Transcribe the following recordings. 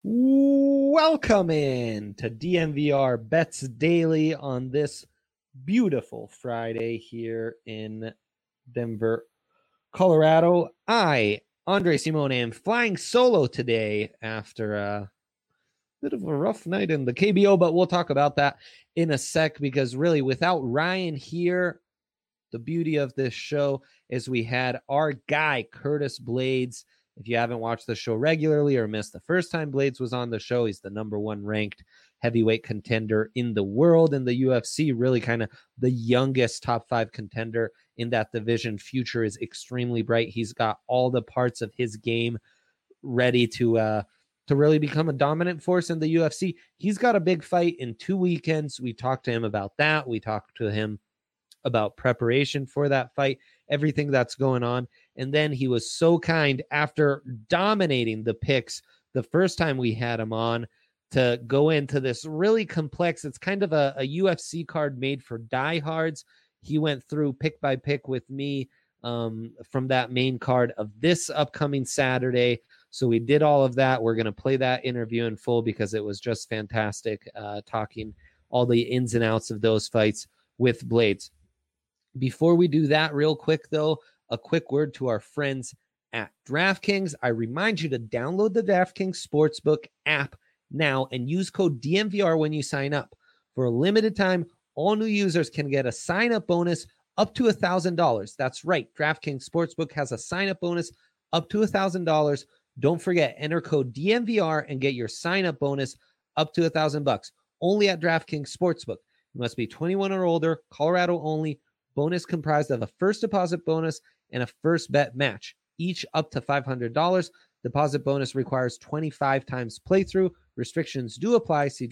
Welcome in to DNVR Bets Daily on this beautiful Friday here in Denver, Colorado. I, Andre Simone, am flying solo today after a bit of a rough night in the KBO, but we'll talk about that in a sec because really without Ryan here, the beauty of this show is we had our guy, Curtis Blades. If you haven't watched the show regularly or missed the first time Blades was on the show, he's the number one ranked heavyweight contender in the world in the UFC, really kind of the youngest top five contender in that division. Future is extremely bright. He's got all the parts of his game ready to really become a dominant force in the UFC. He's got a big fight in 2 weekends. We talked to him about that. We talked to him about preparation for that fight, everything that's going on. And then he was so kind after dominating the picks the first time we had him on to go into this really complex, it's kind of a UFC card made for diehards. He went through pick by pick with me from that main card of this upcoming Saturday. So we did all of that. We're going to play that interview in full because it was just fantastic talking all the ins and outs of those fights with Blades. Before we do that, real quick, though, a quick word to our friends at DraftKings. I remind you to download the DraftKings Sportsbook app now and use code DNVR when you sign up. For a limited time, all new users can get a sign-up bonus up to $1,000. That's right. DraftKings Sportsbook has a sign-up bonus up to $1,000. Don't forget, enter code DNVR and get your sign-up bonus up to $1,000. Only at DraftKings Sportsbook. You must be 21 or older, Colorado only. Bonus comprised of a first deposit bonus and a first bet match, each up to $500. Deposit bonus requires 25 times playthrough. Restrictions do apply. See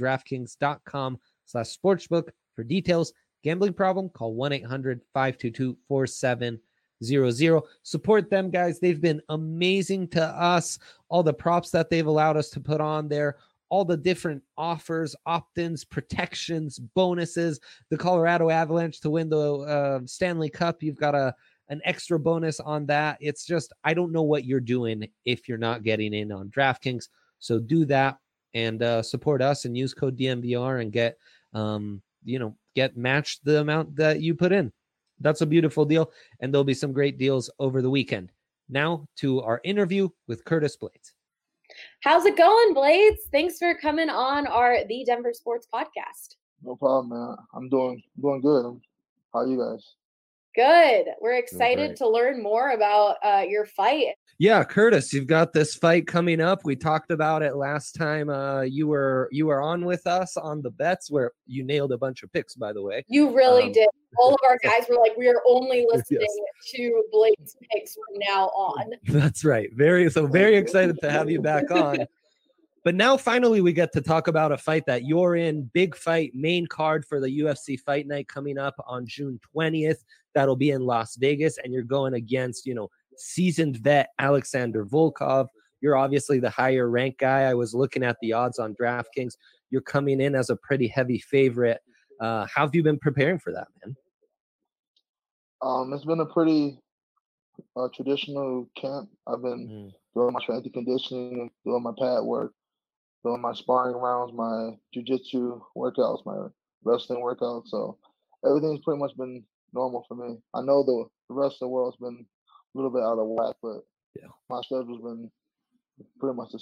DraftKings.com/sportsbook for details. Gambling problem? Call 1-800-522-4700. Support them, guys. They've been amazing to us. All the props that they've allowed us to put on there, all the different offers, opt-ins, protections, bonuses. The Colorado Avalanche to win the Stanley Cup, you've got an extra bonus on that. It's just, I don't know what you're doing if you're not getting in on DraftKings. So do that and support us and use code DNVR and get matched the amount that you put in. That's a beautiful deal, and there'll be some great deals over the weekend. Now to our interview with Curtis Blades. How's it going, Blades? Thanks for coming on the Denver Sports Podcast. No problem, man. I'm doing good. How are you guys? Good. We're excited to learn more about your fight. Yeah, Curtis, you've got this fight coming up. We talked about it last time you were on with us on the bets where you nailed a bunch of picks, by the way. You really did. All of our guys were like, we are only listening to Blades picks from now on. That's right. Very excited to have you back on. But now finally we get to talk about a fight that you're in. Big fight, main card for the UFC Fight Night coming up on June 20th. That'll be in Las Vegas, and you're going against, seasoned vet Alexander Volkov. You're obviously the higher ranked guy. I was looking at the odds on DraftKings. You're coming in as a pretty heavy favorite. How have you been preparing for that, man? It's been a pretty traditional camp. I've been doing my strength and conditioning, doing my pad work, doing my sparring rounds, my jiu-jitsu workouts, my wrestling workouts. So everything's pretty much been normal for me. I know the rest of the world's been a little bit out of whack, but my schedule's been pretty much the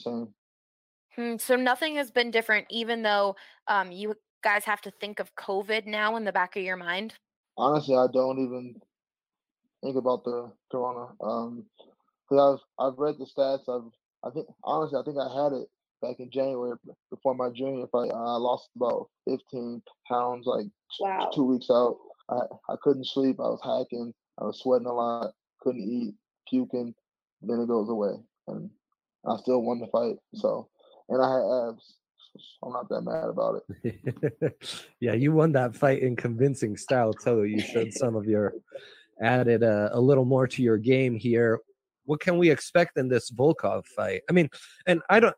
same. So nothing has been different, even though you guys have to think of COVID now in the back of your mind? Honestly, I don't even think about the corona. Because I've read the stats. I think I had it back in January before my junior fight. I lost about 15 pounds, like 2 weeks out. I couldn't sleep. I was hacking. I was sweating a lot. Couldn't eat, puking. Then it goes away, and I still won the fight. So, and I had abs. I'm not that mad about it. Yeah, you won that fight in convincing style too. You showed some of your added a little more to your game here. What can we expect in this Volkov fight? I mean, and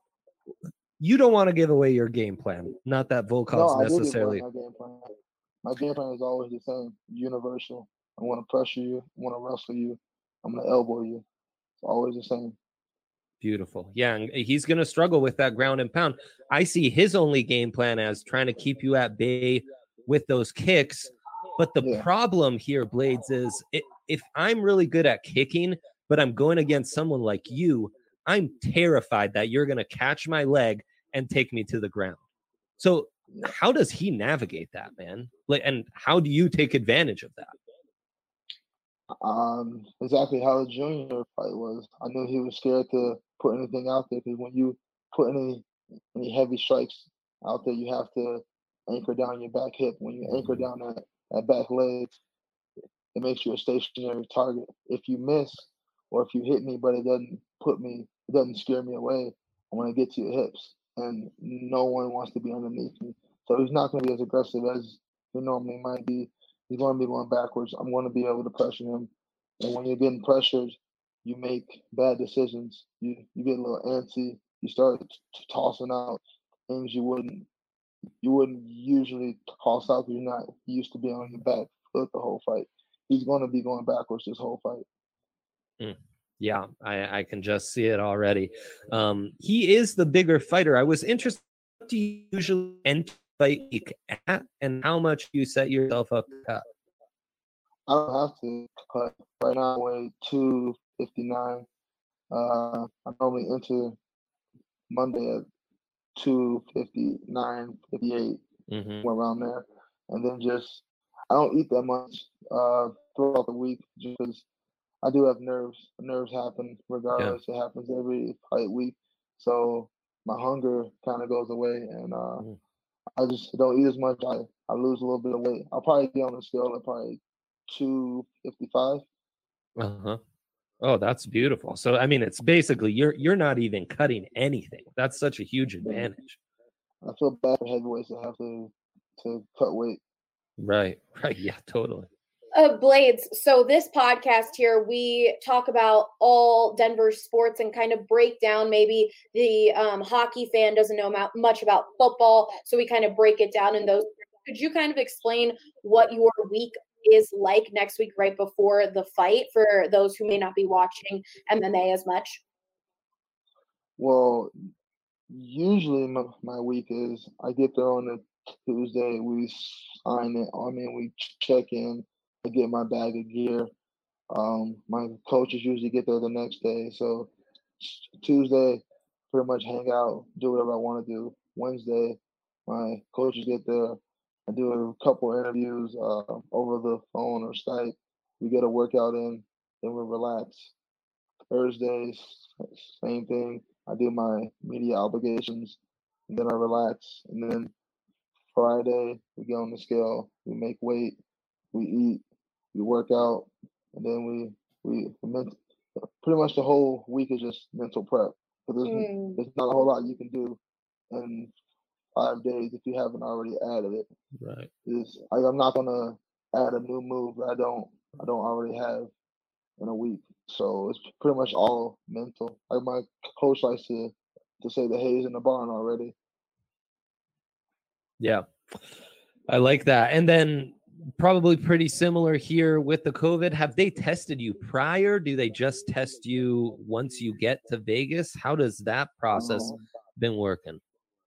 you don't want to give away your game plan. Not that Volkov's necessarily. My game plan is always the same, universal. I want to pressure you. I want to wrestle you. I'm going to elbow you. It's always the same. Beautiful. Yeah, and he's going to struggle with that ground and pound. I see his only game plan as trying to keep you at bay with those kicks. But the problem here, Blades, is if I'm really good at kicking, but I'm going against someone like you, I'm terrified that you're going to catch my leg and take me to the ground. So how does he navigate that, man? Like, and how do you take advantage of that? Exactly how the junior fight was. I knew he was scared to put anything out there because when you put any heavy strikes out there, you have to anchor down your back hip. When you anchor down that back leg, it makes you a stationary target. If you miss or if you hit me, but it doesn't scare me away, I want to get to your hips. And no one wants to be underneath me. So he's not going to be as aggressive as he normally might be. He's going to be going backwards. I'm going to be able to pressure him. And when you're getting pressured, you make bad decisions. You get a little antsy. You start tossing out things you wouldn't usually toss out because you're not used to being on your back foot the whole fight. He's going to be going backwards this whole fight. Yeah, I can just see it already. He is the bigger fighter. I was interested, what do you usually enter fight at and how much you set yourself up to cut? I don't have to cut. Right now I weigh 259. I normally enter Monday at 259, 58, around there. And then I don't eat that much throughout the week just because I do have nerves. Nerves happen regardless. Yeah. It happens every fight week. So my hunger kind of goes away, and I just don't eat as much. I lose a little bit of weight. I'll probably be on the scale at probably 255. Oh, that's beautiful. So I mean, it's basically you're not even cutting anything. That's such a huge advantage. I feel bad for heavyweights that have to cut weight. Right. Yeah, totally. Blades, so this podcast here, we talk about all Denver sports and kind of break down maybe the hockey fan doesn't know much about football, so we kind of break it down in those. Could you kind of explain what your week is like next week right before the fight for those who may not be watching MMA as much? Well, usually my week is I get there on a Tuesday, we sign it. I mean, we check in. I get my bag of gear. My coaches usually get there the next day. So Tuesday, pretty much hang out, do whatever I want to do. Wednesday, my coaches get there. I do a couple interviews over the phone or Skype. We get a workout in, then we relax. Thursdays, same thing. I do my media obligations, and then I relax. And then Friday, we get on the scale, we make weight, we eat, we work out, and then we pretty much the whole week is just mental prep. But there's not a whole lot you can do in 5 days if you haven't already added it. Right. I'm not gonna add a new move that I don't already have in a week. So it's pretty much all mental. Like my coach likes to say the hay's in the barn already. Yeah, I like that. And then probably pretty similar here with the COVID. Have they tested you prior? Do they just test you once you get to Vegas? How does that process been working?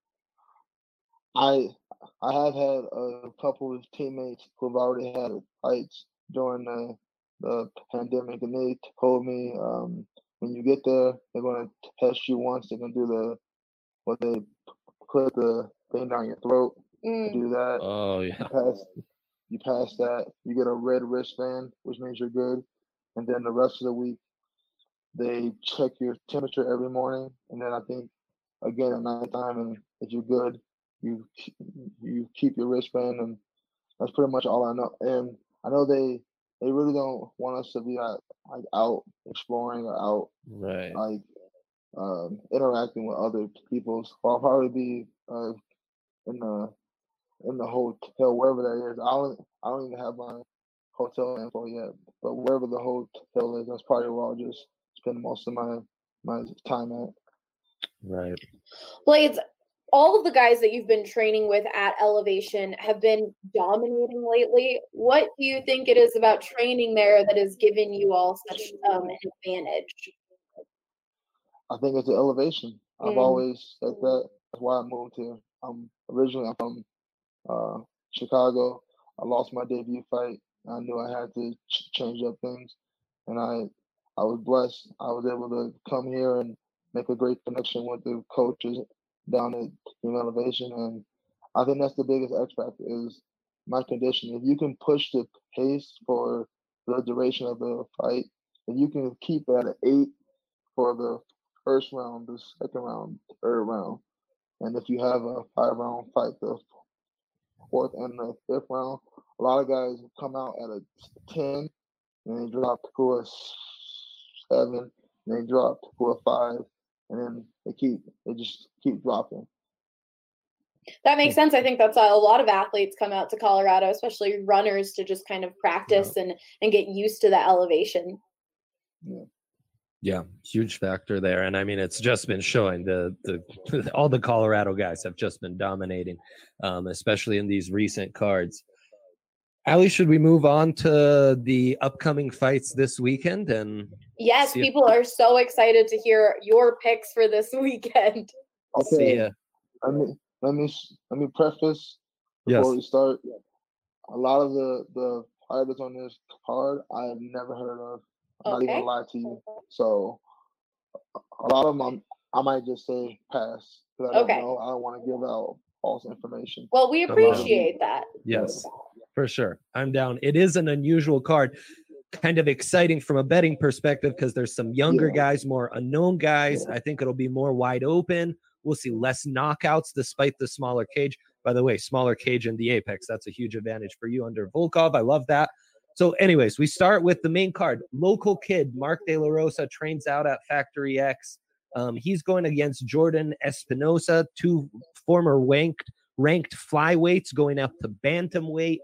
I have had a couple of teammates who've already had fights during the pandemic, and they told me when you get there, they're going to test you once. They're going to do what they put the thing down your throat. Do that. Oh yeah. You pass that, you get a red wristband, which means you're good. And then the rest of the week, they check your temperature every morning, and then I think again at nighttime, and if you're good, you keep your wristband, and that's pretty much all I know. And I know they really don't want us to be like out exploring or out like interacting with other people. So I'll probably be in the hotel, wherever that is. I don't even have my hotel info yet, but wherever the hotel is, that's probably where I'll just spend most of my time at. Right. Blades, all of the guys that you've been training with at Elevation have been dominating lately. What do you think it is about training there that has given you all such an advantage? I think it's the elevation. I've Mm. always said that. That's why I moved here. I'm from Chicago. I lost my debut fight. I knew I had to change up things, and I was blessed. I was able to come here and make a great connection with the coaches down at Team Elevation, and I think that's the biggest X factor is my condition. If you can push the pace for the duration of the fight, if you can keep it at an 8 for the first round, the second round, third round, and if you have a 5-round fight, the fourth and the fifth round, a lot of guys come out at a 10 and they drop to a 7, and they drop to a 5, and then they just keep dropping. That makes sense. I think that's a lot of athletes come out to Colorado, especially runners, to just kind of practice and get used to that elevation. Yeah, huge factor there. And I mean, it's just been showing the all the Colorado guys have just been dominating, especially in these recent cards. Ali, should we move on to the upcoming fights this weekend? And yes, people are so excited to hear your picks for this weekend. Okay, let me preface before we start. A lot of the fighters on this card I have never heard of. I'm not even gonna lie to you. So a lot of them I might just say pass because I don't know. I don't want to give out false information. Well, we appreciate that. Yes, for sure. I'm down. It is an unusual card. Kind of exciting from a betting perspective because there's some younger guys, more unknown guys. I think it'll be more wide open. We'll see less knockouts despite the smaller cage. By the way, smaller cage in the Apex. That's a huge advantage for you under Volkov. I love that. So anyways, we start with the main card. Local kid, Mark De La Rosa, trains out at Factory X. He's going against Jordan Espinosa, 2 former ranked flyweights going up to bantamweight.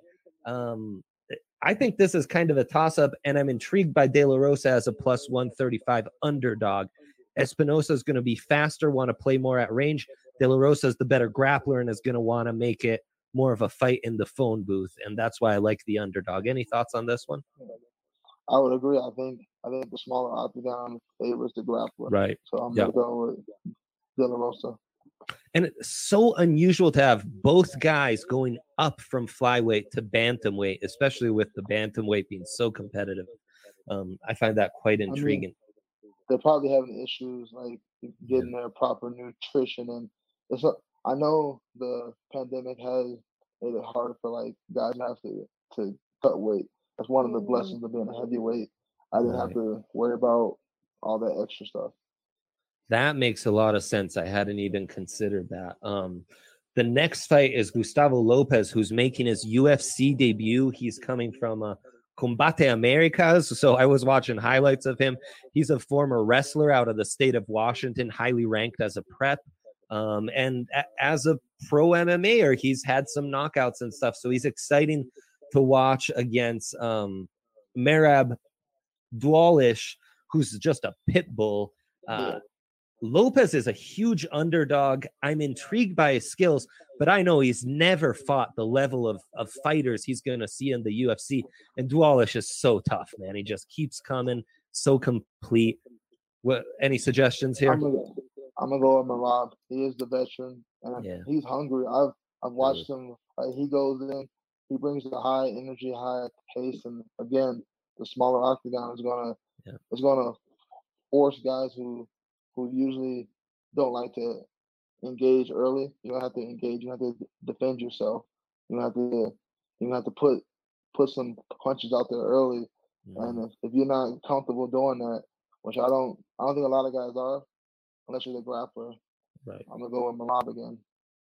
I think this is kind of a toss-up, and I'm intrigued by De La Rosa as a plus 135 underdog. Espinosa is going to be faster, want to play more at range. De La Rosa is the better grappler and is going to want to make it more of a fight in the phone booth, and that's why I like the underdog. Any thoughts on this one? I would agree. I think the smaller octagon favors the grappler. Right. So I'm going to go with De La Rosa. And it's so unusual to have both guys going up from flyweight to bantamweight, especially with the bantamweight being so competitive. I find that quite intriguing. I mean, they're probably having issues like getting their proper nutrition, and I know the pandemic has made it harder for like guys to have to cut weight. That's one of the blessings of being a heavyweight. I didn't have to worry about all that extra stuff. That makes a lot of sense. I hadn't even considered that. The next fight is Gustavo Lopez, who's making his UFC debut. He's coming from Combate Americas. So I was watching highlights of him. He's a former wrestler out of the state of Washington, highly ranked as a prep. And as a pro MMAer, he's had some knockouts and stuff. So he's exciting to watch against Merab Dwalish, who's just a pit bull. Lopez is a huge underdog. I'm intrigued by his skills, but I know he's never fought the level of fighters he's going to see in the UFC. And Dwalish is so tough, man. He just keeps coming, so complete. What? Any suggestions here? I'm gonna go with Merab. He is the veteran, and he's hungry. I've watched him. He goes in, he brings the high energy, high pace, and again, the smaller octagon is gonna force guys who usually don't like to engage early. You don't have to engage. You have to defend yourself. You have to put some punches out there early. And if you're not comfortable doing that, which I don't think a lot of guys are, unless you're the grappler. Right. I'm gonna go with Merab again.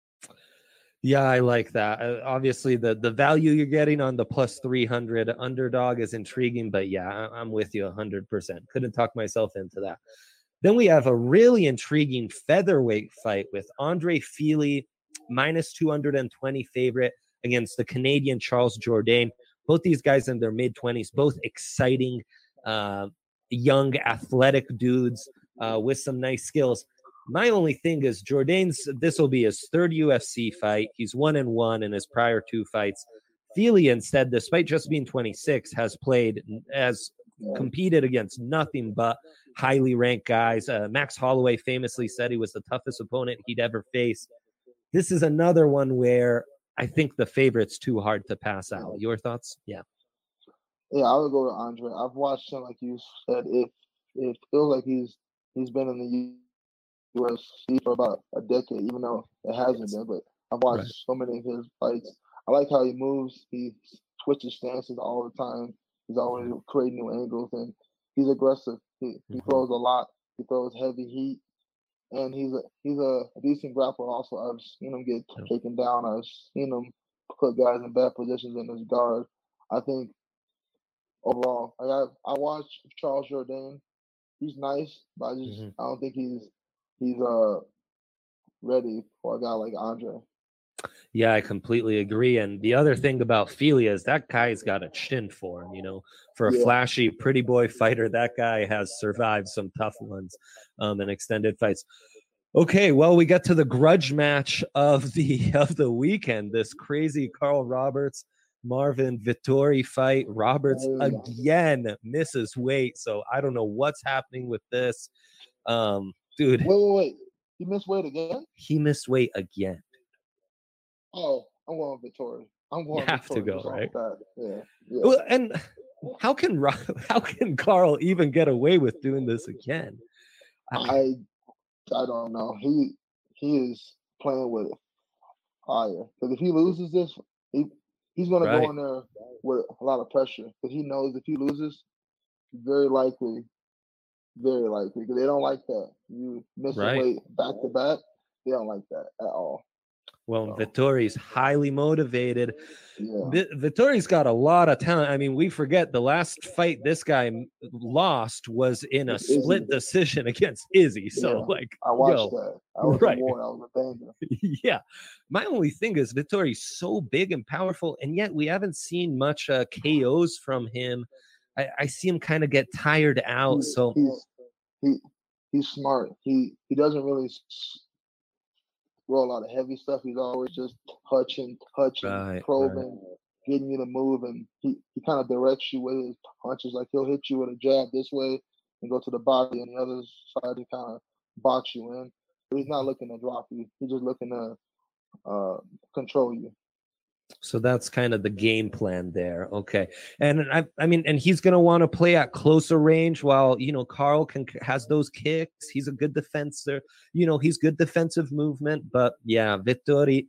Yeah, I like that. Obviously, the value you're getting on the plus 300 underdog is intriguing, but yeah, I'm with you 100%. Couldn't talk myself into that. Then we have a really intriguing featherweight fight with Andre Fili, minus 220 favorite against the Canadian Charles Jourdain. Both these guys in their mid-20s, both exciting, young, athletic dudes with some nice skills. My only thing is this will be his 3rd UFC fight. He's 1-1 in his prior 2 fights. Fili instead, despite just being 26, has played as competed against nothing but highly ranked guys. Max Holloway famously said he was the toughest opponent he'd ever faced. This is another one where I think the favorite's too hard to pass out. Your thoughts? Yeah. Yeah, I would go with Andre. I've watched him, like you said. It feels like he's been in the UFC for about a decade, even though it hasn't been. But I've watched so many of his fights. I like how he moves. He switches stances all the time. He's always creating new angles, and he's aggressive. He throws a lot. He throws heavy heat, and he's a decent grappler. Also, I've seen him get taken down. I've seen him put guys in bad positions in his guard. I think overall, I watched Charles Jourdain. He's nice, but I don't think he's ready for a guy like Andre. Yeah, I completely agree. And the other thing about Fili is that guy's got a chin for him, for a flashy, pretty boy fighter. That guy has survived some tough ones in extended fights. Okay, well, we got to the grudge match of the weekend. This crazy Carl Roberts, Marvin Vettori fight. Roberts again misses weight, so I don't know what's happening with this. Dude. Wait. He missed weight again? He missed weight again. Oh, I'm going Vettori. You have to go, right? Yeah. Well, and how can Carl even get away with doing this again? I don't know. He is playing with fire. Because if he loses this, he's going to go in there with a lot of pressure. Because he knows if he loses, very likely, because they don't like that. You miss weight back to back. They don't like that at all. Well, Vettori's highly motivated. Yeah. Vettori's got a lot of talent. I mean, we forget the last fight this guy lost was in a split decision against Izzy. So, I watched that. I was I was a banger. Yeah. My only thing is Vettori's so big and powerful, and yet we haven't seen much KOs from him. I see him kind of get tired out. He's smart. He doesn't really roll a lot of heavy stuff. He's always just touching, probing, getting you to move, and he kind of directs you with his punches. Like he'll hit you with a jab this way and go to the body, and the other side to kind of box you in. But he's not looking to drop you. He's just looking to control you. So that's kind of the game plan there. Okay. And I mean, and he's going to want to play at closer range while, Carl has those kicks. He's a good defender. He's good defensive movement, but yeah, Vettori,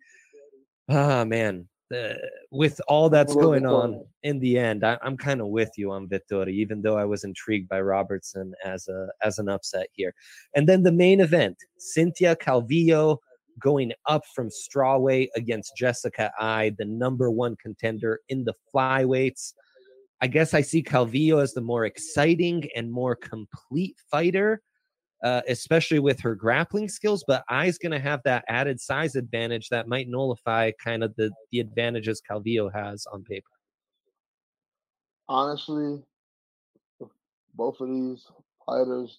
man, with all that's going on in the end, I'm kind of with you on Vettori, even though I was intrigued by Robertson as an upset here. And then the main event, Cynthia Calvillo going up from strawweight against Jessica Eye, the number one contender in the flyweights. I guess I see Calvillo as the more exciting and more complete fighter, especially with her grappling skills, but Eye's going to have that added size advantage that might nullify kind of the advantages Calvillo has on paper. Honestly, both of these fighters,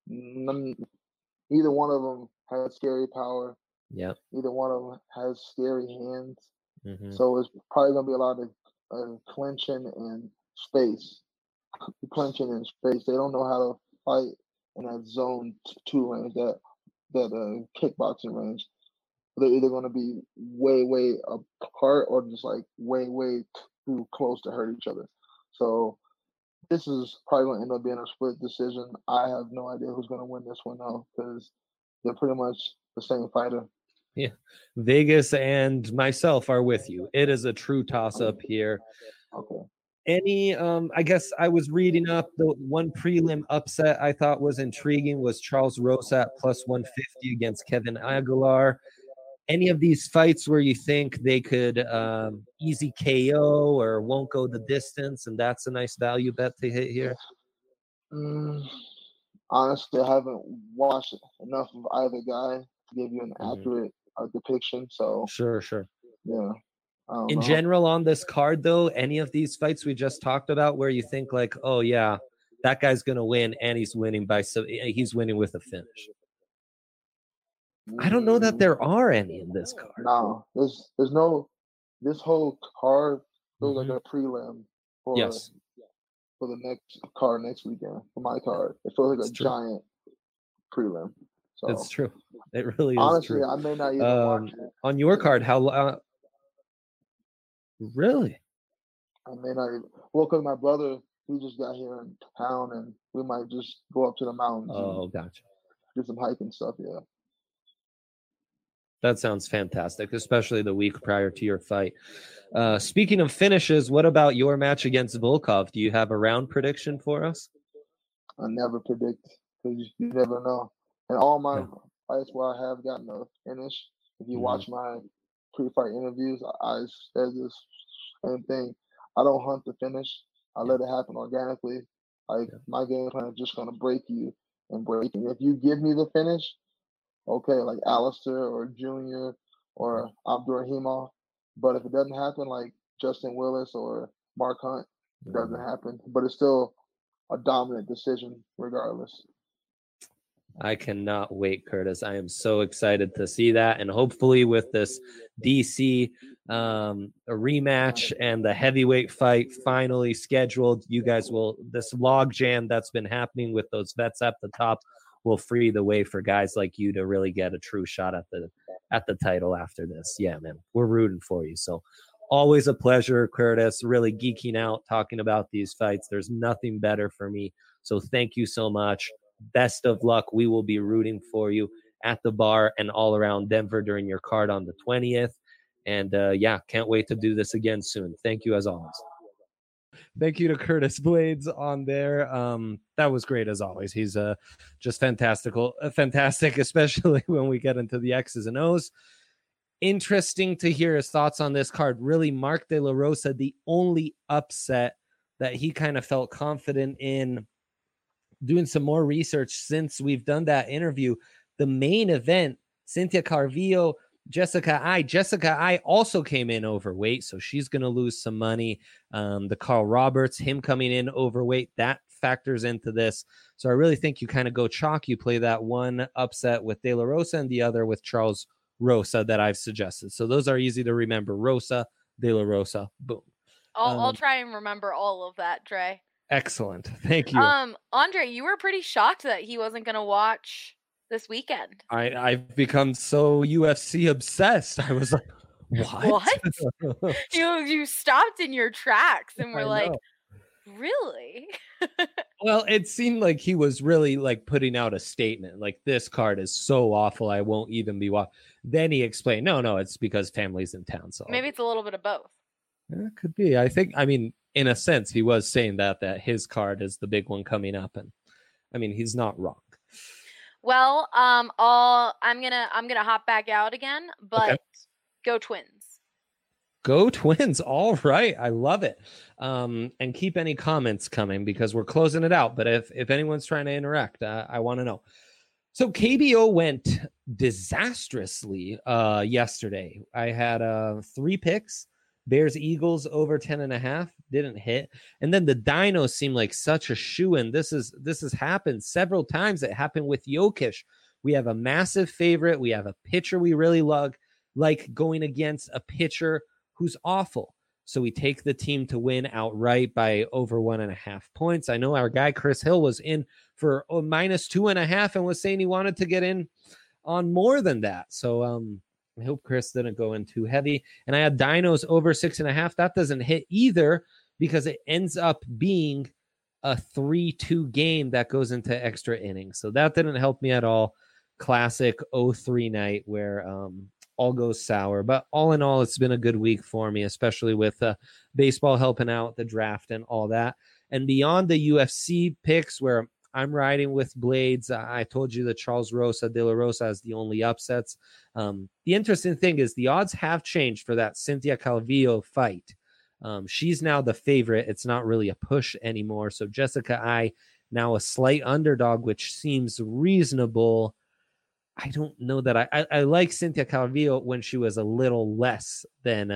neither one of them has scary power. Yeah. Either one of them has scary hands. So it's probably going to be a lot of clinching and space. Clinching and space. They don't know how to fight in that zone 2 range, that kickboxing range. They're either going to be way apart or just like way too close to hurt each other. So this is probably going to end up being a split decision. I have no idea who's going to win this one though, because they're pretty much the same fighter. Yeah, Vegas and myself are with you. It is a true toss-up here. Okay. Any, I guess I was reading up the one prelim upset I thought was intriguing was Charles Rosa at plus 150 against Kevin Aguilar. Any of these fights where you think they could easy KO or won't go the distance, and that's a nice value bet to hit here? Honestly, I haven't watched enough of either guy to give you an accurate depiction. So sure. Yeah. In general, on this card, though, any of these fights we just talked about where you think like, oh yeah, that guy's gonna win, and he's winning with a finish. I don't know that there are any in this card. No, there's no. This whole card feels like a prelim for for the next card next weekend for my card. It feels like a giant prelim. So it's true. It really is honestly, true. I may not even watch it. On your card, how really? I may not even. Well, because my brother, he just got here in town, and we might just go up to the mountains. Oh, gotcha. Do some hiking stuff. Yeah. That sounds fantastic, especially the week prior to your fight. Speaking of finishes, what about your match against Volkov? Do you have a round prediction for us? I never predict because you never know. And all my fights where I have gotten a finish, if you watch my pre-fight interviews, I said this same thing. I don't hunt the finish. I let it happen organically. My game plan is just going to break you and break you. If you give me the finish, okay, like Alistair or Junior or Abdurrahimov. But if it doesn't happen, like Justin Willis or Mark Hunt, it doesn't happen. But it's still a dominant decision regardless. I cannot wait, Curtis. I am so excited to see that. And hopefully with this DC a rematch and the heavyweight fight finally scheduled, you guys will, this log jam that's been happening with those vets at the top will free the way for guys like you to really get a true shot at the title after this. Yeah, man, we're rooting for you. So always a pleasure, Curtis, really geeking out, talking about these fights. There's nothing better for me. So thank you so much. Best of luck. We will be rooting for you at the bar and all around Denver during your card on the 20th. And can't wait to do this again soon. Thank you as always. Thank you to Curtis Blades on there. That was great as always. He's just fantastic, especially when we get into the X's and O's. Interesting to hear his thoughts on this card. Really, Mark De La Rosa, the only upset that he kind of felt confident in. Doing some more research since we've done that interview, the main event, Cynthia Calvillo, Jessica Eye also came in overweight, so she's going to lose some money. The Carl Roberts, him coming in overweight, that factors into this. So I really think you kind of go chalk. You play that one upset with De La Rosa and the other with Charles Rosa that I've suggested. So those are easy to remember. Rosa, De La Rosa, boom. I'll try and remember all of that, Dre. Excellent. Thank you. Andre, you were pretty shocked that he wasn't going to watch this weekend. I've become so UFC obsessed. I was like, what? You stopped in your tracks and were like, really? Well, it seemed like he was really like putting out a statement like, this card is so awful, I won't even be watching. Then he explained, no, it's because family's in town. So maybe it's a little bit of both. Yeah, it could be. I mean, in a sense, he was saying that his card is the big one coming up, and I mean, he's not wrong. Well, I'm gonna hop back out again, but Go Twins. Go Twins. All right. I love it. And keep any comments coming because we're closing it out. But if anyone's trying to interact, I want to know. So KBO went disastrously yesterday. I had 3 picks. Bears Eagles over 10.5 didn't hit. And then the Dinos seem like such a shoo-in. This has happened several times. It happened with Jokic. We have a massive favorite. We have a pitcher we really like going against a pitcher who's awful. So we take the team to win outright by over 1.5 points. I know our guy Chris Hill was in for -2.5 and was saying he wanted to get in on more than that. So I hope Chris didn't go in too heavy. And I had Dinos over 6.5. That doesn't hit either because it ends up being a 3-2 game that goes into extra innings. So that didn't help me at all. Classic 0-3 night where all goes sour. But all in all, it's been a good week for me, especially with baseball helping out, the draft and all that. And beyond the UFC picks where I'm riding with Blades. I told you that Charles Rosa, De La Rosa is the only upsets. The interesting thing is the odds have changed for that Cynthia Calvillo fight. She's now the favorite. It's not really a push anymore. So Jessica Eye now a slight underdog, which seems reasonable. I don't know that I like Cynthia Calvillo when she was a little less than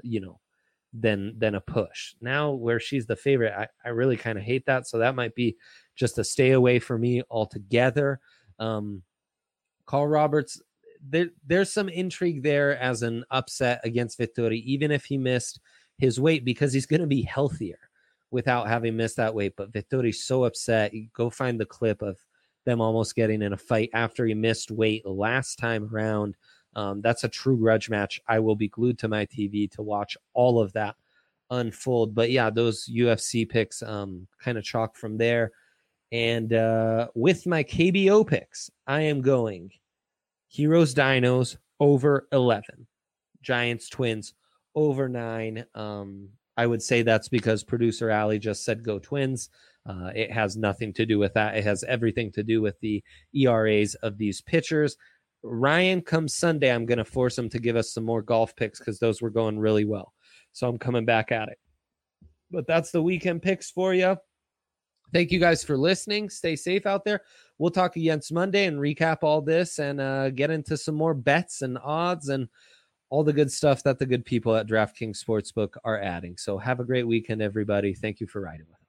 than a push. Now where she's the favorite, I really kind of hate that. So that might be just a stay away for me altogether. Carl Roberts, there's some intrigue there as an upset against Vettori, even if he missed his weight, because he's going to be healthier. without having missed that weight. But Vettori's so upset. You go find the clip of them almost getting in a fight after he missed weight last time around. That's a true grudge match. I will be glued to my TV to watch all of that unfold. But yeah, those UFC picks kind of chalk from there. And with my KBO picks, I am going Heroes Dinos over 11, Giants Twins over 9. I would say that's because producer Ali just said go Twins. It has nothing to do with that. It has everything to do with the ERAs of these pitchers. Ryan, come Sunday, I'm going to force him to give us some more golf picks because those were going really well. So I'm coming back at it. But that's the weekend picks for you. Thank you guys for listening. Stay safe out there. We'll talk against Monday and recap all this and get into some more bets and odds and all the good stuff that the good people at DraftKings Sportsbook are adding. So have a great weekend, everybody. Thank you for riding with us.